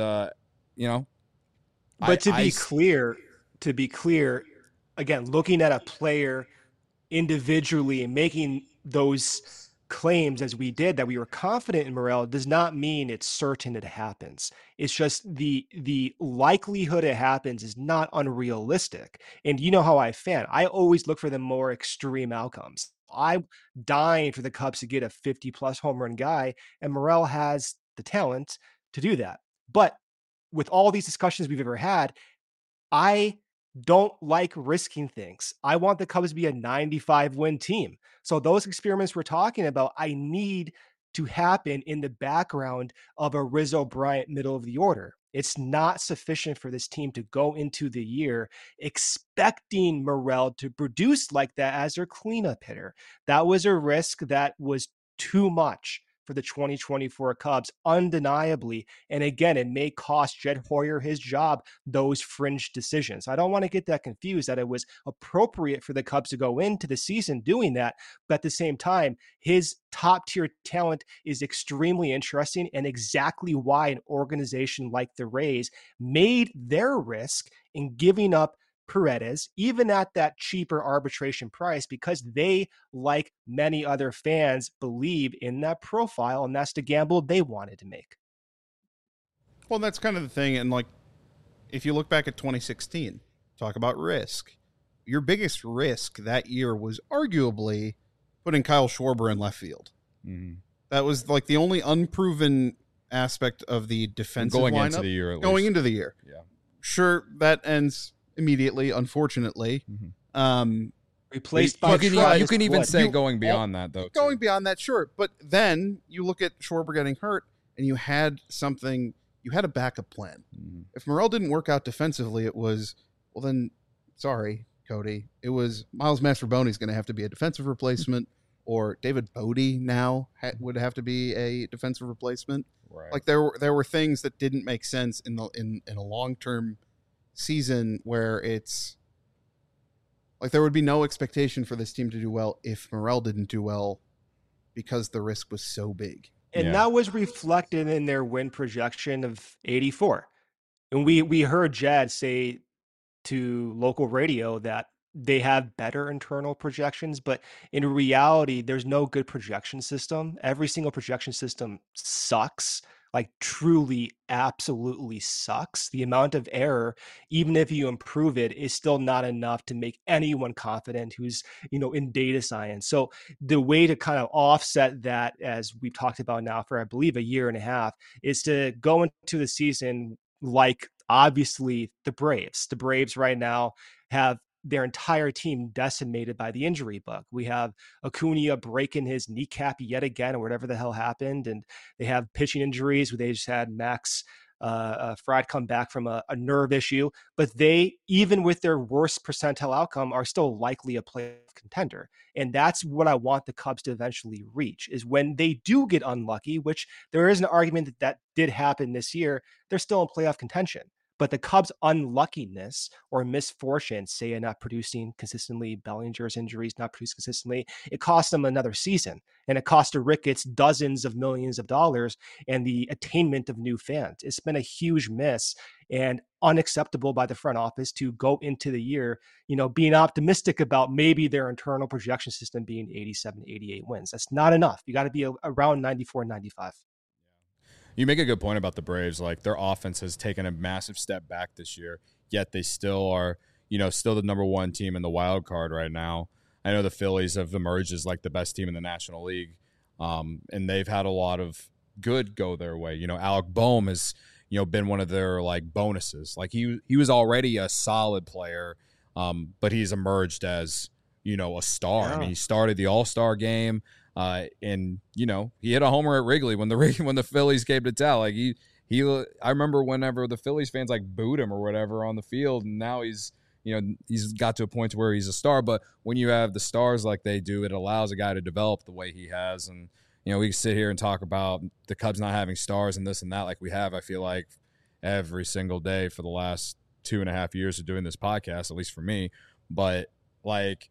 But to be clear, again, looking at a player individually and making those claims as we did that we were confident in Morel does not mean it's certain it happens. It's just the likelihood it happens is not unrealistic. And you know how I fan. I always look for the more extreme outcomes. I'm dying for the Cubs to get a 50 plus home run guy, and Morel has the talent to do that. But with all these discussions we've ever had, I don't like risking things. I want the Cubs to be a 95 win team. So those experiments we're talking about, I need to happen in the background of a Rizzo Bryant middle of the order. It's not sufficient for this team to go into the year expecting Morel to produce like that as their cleanup hitter. That was a risk that was too much for the 2024 Cubs, undeniably. And again, it may cost Jed Hoyer his job, those fringe decisions. I don't want to get that confused that it was appropriate for the Cubs to go into the season doing that. But at the same time, his top tier talent is extremely interesting and exactly why an organization like the Rays made their risk in giving up Paredes, even at that cheaper arbitration price, because they, like many other fans, believe in that profile, and that's the gamble they wanted to make. Well, that's kind of the thing. And like, if you look back at 2016, talk about risk. your biggest risk that year was arguably putting Kyle Schwarber in left field. Mm-hmm. That was like the only unproven aspect of the defensive going lineup into the year. Going into the year, yeah. Sure, that ends immediately. Unfortunately, replaced by you can even say going beyond that though. Going beyond that, sure. But then you look at Schwarber getting hurt, and you had something. You had a backup plan. Mm-hmm. If Morel didn't work out defensively, it was then. Sorry, Cody. It was Miles Mastrobuoni is going to have to be a defensive replacement, or David Bodie now would have to be a defensive replacement. Right. Like there were things that didn't make sense in a long-term season where it's like there would be no expectation for this team to do well if Morel didn't do well because the risk was so big. And that was reflected in their win projection of 84. And we heard Jad say to local radio that they have better internal projections, but in reality, there's no good projection system. Every single projection system sucks, like truly, absolutely sucks. The amount of error, even if you improve it, is still not enough to make anyone confident who's, in data science. So the way to kind of offset that, as we've talked about now for, I believe, a year and a half, is to go into the season like obviously the Braves. The Braves right now have their entire team decimated by the injury bug. We have Acuna breaking his kneecap yet again, or whatever the hell happened. And they have pitching injuries where they just had Max Fried come back from a nerve issue. But they, even with their worst percentile outcome, are still likely a playoff contender. And that's what I want the Cubs to eventually reach, is when they do get unlucky, which there is an argument that did happen this year, they're still in playoff contention. But the Cubs' unluckiness or misfortune, say not producing consistently, Bellinger's injuries not producing consistently, it cost them another season. And it cost the Ricketts dozens of millions of dollars and the attainment of new fans. It's been a huge miss and unacceptable by the front office to go into the year, being optimistic about maybe their internal projection system being 87, 88 wins. That's not enough. You got to be around 94, 95. You make a good point about the Braves. Like, their offense has taken a massive step back this year, yet they still are, still the number one team in the wild card right now. I know the Phillies have emerged as like the best team in the National League, and they've had a lot of good go their way. Alec Boehm has, been one of their like bonuses. Like he was already a solid player, but he's emerged as, a star. Yeah. I mean, he started the All-Star game. And he hit a homer at Wrigley when the Phillies came to town. Like I remember whenever the Phillies fans like booed him or whatever on the field, and now he's got to a point where he's a star. But when you have the stars like they do, it allows a guy to develop the way he has. And we can sit here and talk about the Cubs not having stars and this and that like we have. I feel like every single day for the last 2.5 years of doing this podcast, at least for me. But like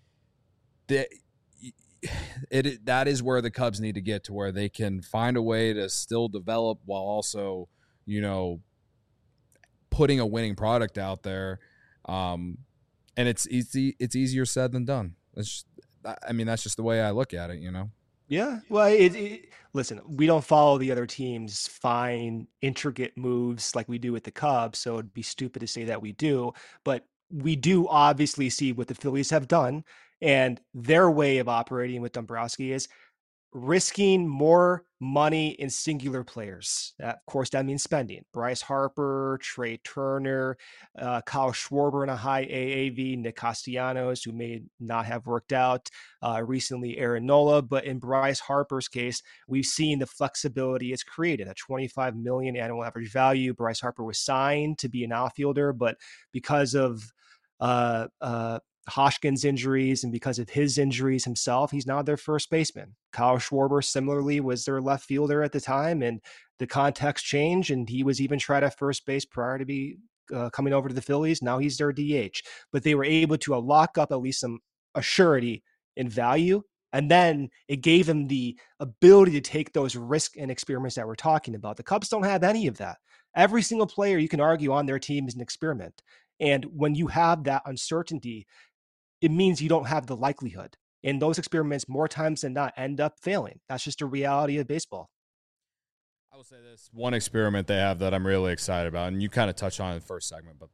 that is where the Cubs need to get to, where they can find a way to still develop while also, putting a winning product out there. And it's easier said than done. That's just the way I look at it, Yeah. Well, listen, we don't follow the other team's fine, intricate moves like we do with the Cubs, so it'd be stupid to say that we do. But we do obviously see what the Phillies have done, and their way of operating with Dombrowski is risking more money in singular players. Of course, that means spending. Bryce Harper, Trey Turner, Kyle Schwarber in a high AAV, Nick Castellanos, who may not have worked out, recently Aaron Nola. But in Bryce Harper's case, we've seen the flexibility it's created, a $25 million annual average value. Bryce Harper was signed to be an outfielder, but because of Hoskins' injuries and because of his injuries himself, he's now their first baseman. Kyle Schwarber similarly was their left fielder at the time, and the context changed, and he was even tried at first base prior to be coming over to the Phillies. Now he's their DH, but they were able to lock up at least some assurity in value, and then it gave him the ability to take those risk and experiments that we're talking about. The Cubs don't have any of that. Every single player you can argue on their team is an experiment, and when you have that uncertainty, it means you don't have the likelihood. And those experiments, more times than not, end up failing. That's just a reality of baseball. I will say this one experiment they have that I'm really excited about, and you kind of touched on it in the first segment, but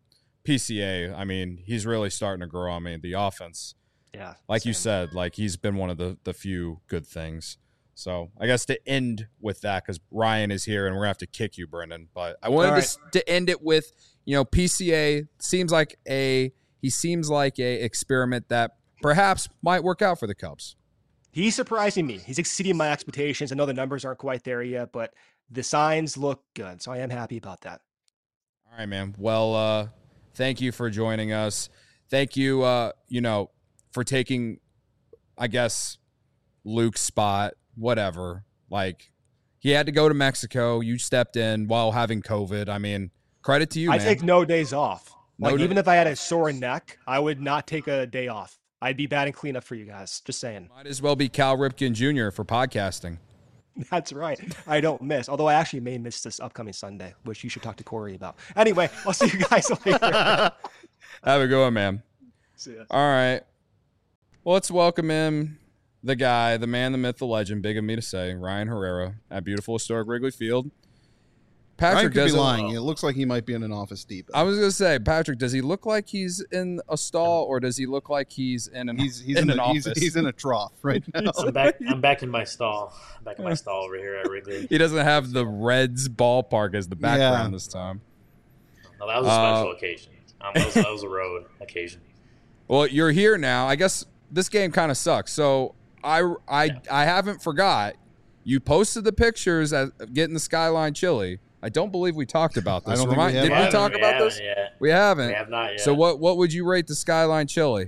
PCA, I mean, he's really starting to grow on me. The offense, like you said, like he's been one of the few good things. So I guess to end with that, because Ryan is here and we're gonna have to kick you, Brendan. But I wanted to end it with, PCA seems like a experiment that perhaps might work out for the Cubs. He's surprising me. He's exceeding my expectations. I know the numbers aren't quite there yet, but the signs look good. So I am happy about that. All right, man. Well, thank you for joining us. Thank you, for taking, I guess, Luke's spot. Whatever. Like, he had to go to Mexico. You stepped in while having COVID. I mean, credit to you, man. I take no days off. Even if I had a sore neck, I would not take a day off. I'd be batting cleanup for you guys. Just saying. Might as well be Cal Ripken Jr. for podcasting. That's right. I don't miss. Although I actually may miss this upcoming Sunday, which you should talk to Corey about. Anyway, I'll see you guys later. Have a good one, man. See ya. All right. Well, let's welcome in the guy, the man, the myth, the legend, big of me to say, Ryan Herrera at beautiful historic Wrigley Field. Patrick could be lying. It looks like he might be in an Office Depot. I was going to say, Patrick, does he look like he's in a stall or does he look like he's in an office? He's in a trough right now. I'm back in my stall. Back in my stall over here at Wrigley. He doesn't have the Reds ballpark as the background this time. No, that was a special occasion. That was a road occasion. Well, you're here now. I guess this game kind of sucks. So I haven't forgot. You posted the pictures at getting the Skyline Chili. I don't believe we talked about this. Did we talk about this? Yet. We haven't. We have not yet. So what would you rate the Skyline Chili?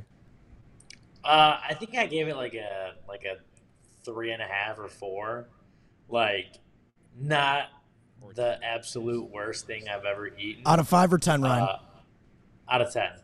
I think I gave it like a 3.5 or 4. Like, not the absolute worst thing I've ever eaten. Out of 5 or 10, Ryan? Out of 10.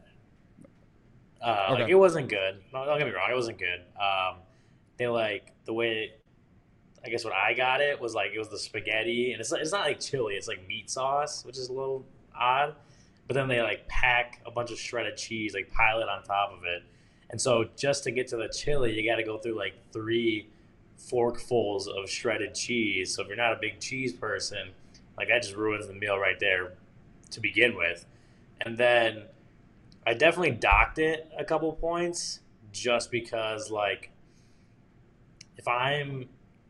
Okay. Like, it wasn't good. No, don't get me wrong, it wasn't good. They the way. I guess what I got it was it was the spaghetti, and it's not like chili, it's like meat sauce, which is a little odd. But then they pack a bunch of shredded cheese, pile it on top of it. And so just to get to the chili, you got to go through 3 forkfuls of shredded cheese. So if you're not a big cheese person, that just ruins the meal right there to begin with. And then I definitely docked it a couple points just because if I'm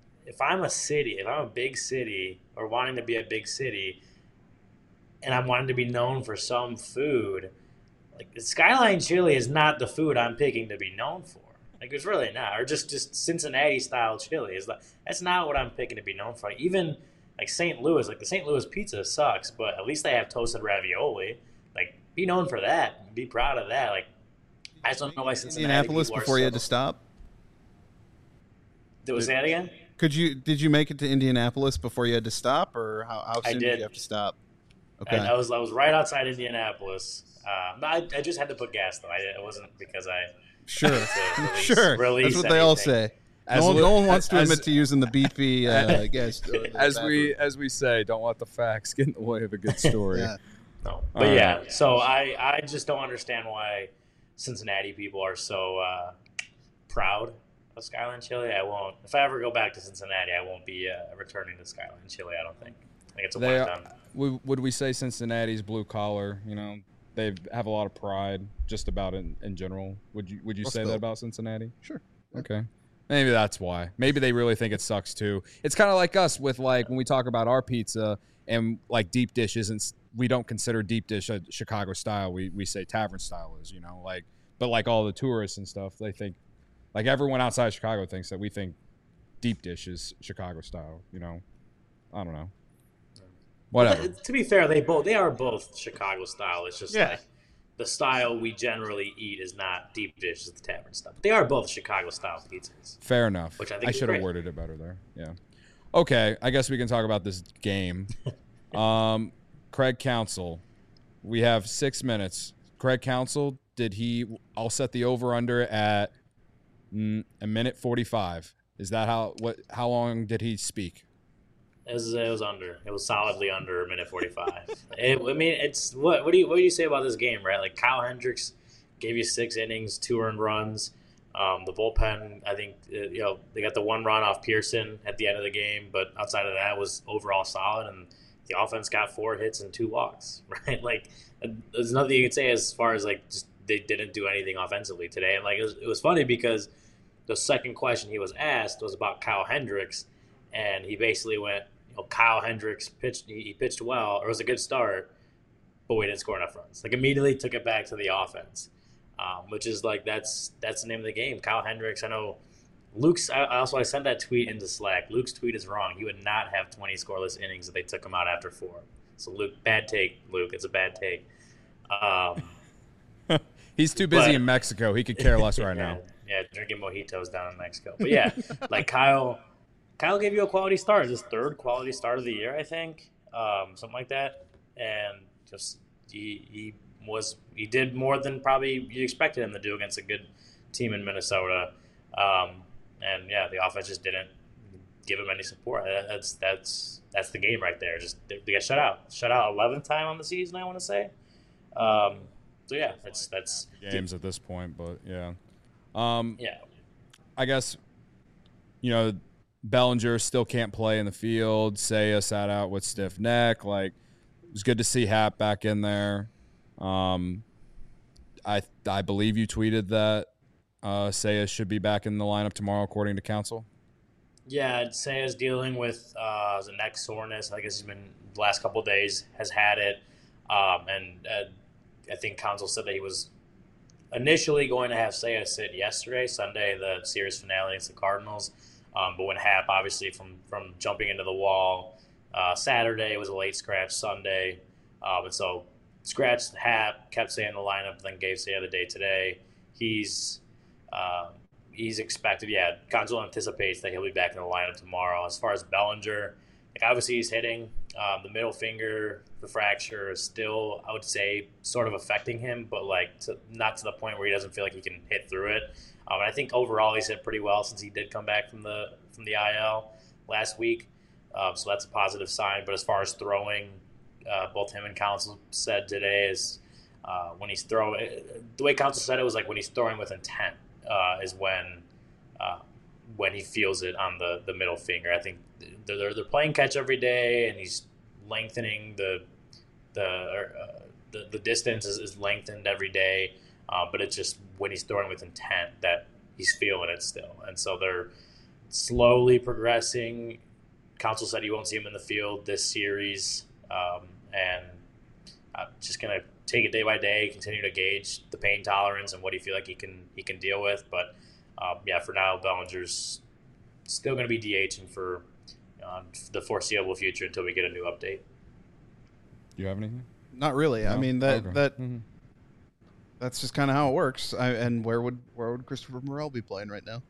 a big city or wanting to be a big city and I'm wanting to be known for some food, Skyline Chili is not the food I'm picking to be known for. It's really not. Or just Cincinnati style chili. That's not what I'm picking to be known for. Even St. Louis, the St. Louis pizza sucks, but at least they have toasted ravioli. Be known for that. Be proud of that. I just don't know why Cincinnati Indianapolis before you had to stop? Say that again? Did you make it to Indianapolis before you had to stop, or how soon did you have to stop? Okay, I was right outside Indianapolis. I just had to put gas though. It wasn't because I sure. Release That's what anything. they all say. No one wants to admit to using the beefy gas. As we say, don't let the facts get in the way of a good story. Yeah. No, but so I just don't understand why Cincinnati people are so proud of Skyline Chili. I won't. If I ever go back to Cincinnati, I won't be returning to Skyline Chili. I don't think. I think it's a one-time. Would we say Cincinnati's blue collar? They have a lot of pride, just about in general. Would you say that about Cincinnati? Sure. Okay. Maybe that's why. Maybe they really think it sucks too. It's kind of like us with when we talk about our pizza and deep dish isn't. We don't consider deep dish a Chicago style. We say tavern style is. But all the tourists and stuff, they think. Everyone outside of Chicago thinks that we think deep dish is Chicago style, I don't know. Whatever. But to be fair, they are both Chicago style. It's just the style we generally eat is not deep dish, it's the tavern style. But they are both Chicago style pizzas. Fair enough. Which I think I should have worded it better there. Yeah. Okay, I guess we can talk about this game. Craig Counsell. We have 6 minutes. Craig Counsell, I'll set the over-under at a minute 45. Is that how long did he speak? It was under. It was solidly under a minute 45. It's what do you say about this game, right? Kyle Hendricks gave you 6 innings, 2 earned runs. The bullpen, I think, they got the 1 run off Pearson at the end of the game, but outside of that was overall solid. And the offense got 4 hits and 2 walks, right? Like, there's nothing you can say as far as like just they didn't do anything offensively today. And like it was funny because the second question he was asked was about Kyle Hendricks, and he basically went, Kyle Hendricks pitched, he pitched well, or it was a good start, but we didn't score enough runs. Like, immediately took it back to the offense, which is like that's the name of the game. Kyle Hendricks, I know. Luke's. I sent that tweet into Slack. Luke's tweet is wrong. He would not have 20 scoreless innings if they took him out after 4. So Luke, bad take. Luke, it's a bad take. He's too busy in Mexico. He could care less right now. Yeah, drinking mojitos down in Mexico. But yeah, like Kyle gave you a quality start. His 3rd quality start of the year, I think, something like that. And just he did more than probably you expected him to do against a good team in Minnesota. And yeah, the offense just didn't give him any support. That's the game right there. Just they got shut out 11th time on the season, I want to say. So yeah, that's games at this point, but yeah. Yeah. I guess Bellinger still can't play in the field. Seiya sat out with stiff neck. Like, it was good to see Happ back in there. I believe you tweeted that Seiya should be back in the lineup tomorrow, according to Counsell. Yeah, Seiya's dealing with the neck soreness. I guess he's been the last couple of days has had it, and I think Counsell said that he was initially going to have Seiya sit yesterday, Sunday, the series finale against the Cardinals. But when Happ, obviously from jumping into the wall Saturday, it was a late scratch Sunday, and so scratched Happ, kept Seiya in the lineup, then gave Seiya the day today. He's expected, Counsell anticipates that he'll be back in the lineup tomorrow. As far as Bellinger, like, obviously he's hitting. The middle finger, the fracture is still, I would say, sort of affecting him, but like not to the point where he doesn't feel like he can hit through it. And I think overall he's hit pretty well since he did come back from the IL last week. So that's a positive sign. But as far as throwing, both him and Counsell said today is when he's throwing, the way Counsell said it was like when he's throwing with intent is when he feels it on the middle finger. I think they're playing catch every day, and he's lengthening the distance is lengthened every day. But it's just when he's throwing with intent that he's feeling it still, and so they're slowly progressing. Counsell said he won't see him in the field this series, and I'm just gonna take it day by day, continue to gauge the pain tolerance and what he feel like he can deal with. But for now, Bellinger's still going to be DHing for the foreseeable future until we get a new update. Do you have anything? Not really. No? I mean that Mm-hmm. That's just kind of how it works. And where would Christopher Morel be playing right now?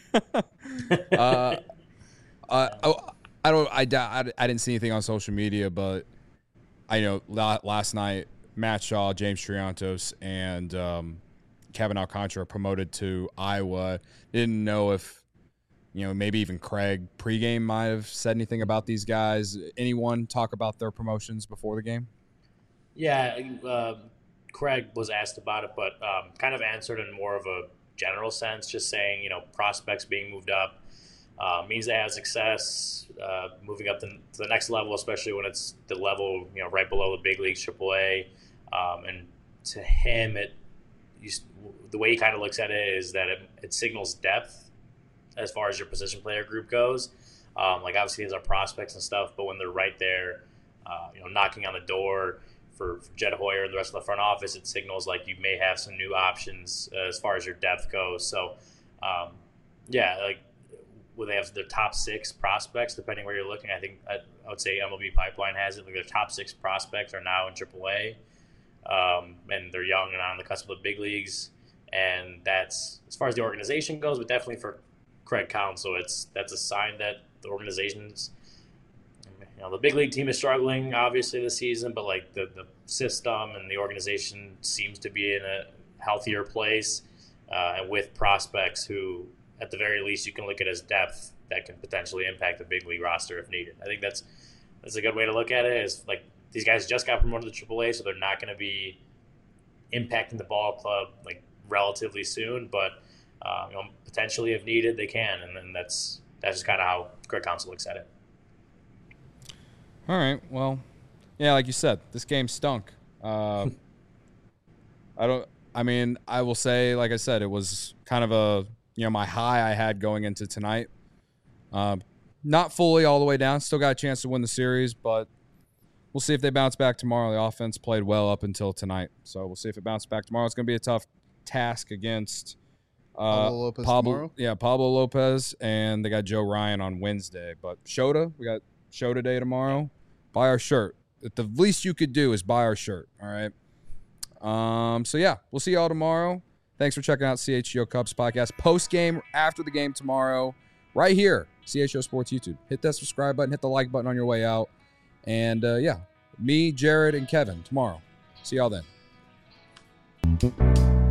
I didn't see anything on social media, but I know last night Matt Shaw, James Triantos, and Kevin Alcantara promoted to Iowa. Didn't know if maybe even Craig pregame might have said anything about these guys. Anyone talk about their promotions before the game? Yeah, Craig was asked about it, but kind of answered in more of a general sense, just saying prospects being moved up means they have success moving up to the next level, especially when it's the level right below the big leagues, AAA. And to him, the way he kind of looks at it is that it signals depth as far as your position player group goes. Like, obviously these are prospects and stuff, but when they're right there, knocking on the door for Jed Hoyer and the rest of the front office, it signals like you may have some new options as far as your depth goes. So, like, where they have their top 6 prospects, depending where you're looking. I think I would say MLB Pipeline has it. Like, their top 6 prospects are now in AAA, and they're young and on the cusp of the big leagues. And that's as far as the organization goes, but definitely for Craig Counsell, that's a sign that the organization's, the big league team is struggling obviously this season, but like the system and the organization seems to be in a healthier place, and with prospects who, at the very least, you can look at as depth that can potentially impact the big league roster if needed. I think that's a good way to look at it. Is like these guys just got promoted to AAA, so they're not going to be impacting the ball club like relatively soon, but potentially if needed they can, and then that's just kind of how Craig Counsell looks at it. All right. Well, yeah, like you said, this game stunk. I will say, like I said, it was kind of a, my high I had going into tonight. Not fully all the way down. Still got a chance to win the series, but we'll see if they bounce back tomorrow. The offense played well up until tonight, so we'll see if it bounces back tomorrow. It's going to be a tough task against Pablo Lopez tomorrow? Yeah, Pablo Lopez, and they got Joe Ryan on Wednesday. But Shota, we got Shota Day tomorrow. Buy our shirt. The least you could do is buy our shirt, all right? So, yeah, we'll see y'all tomorrow. Thanks for checking out CHGO Cubs podcast. Post-game, after the game tomorrow, right here, CHGO Sports YouTube. Hit that subscribe button, hit the like button on your way out. And, me, Jared, and Kevin tomorrow. See y'all then.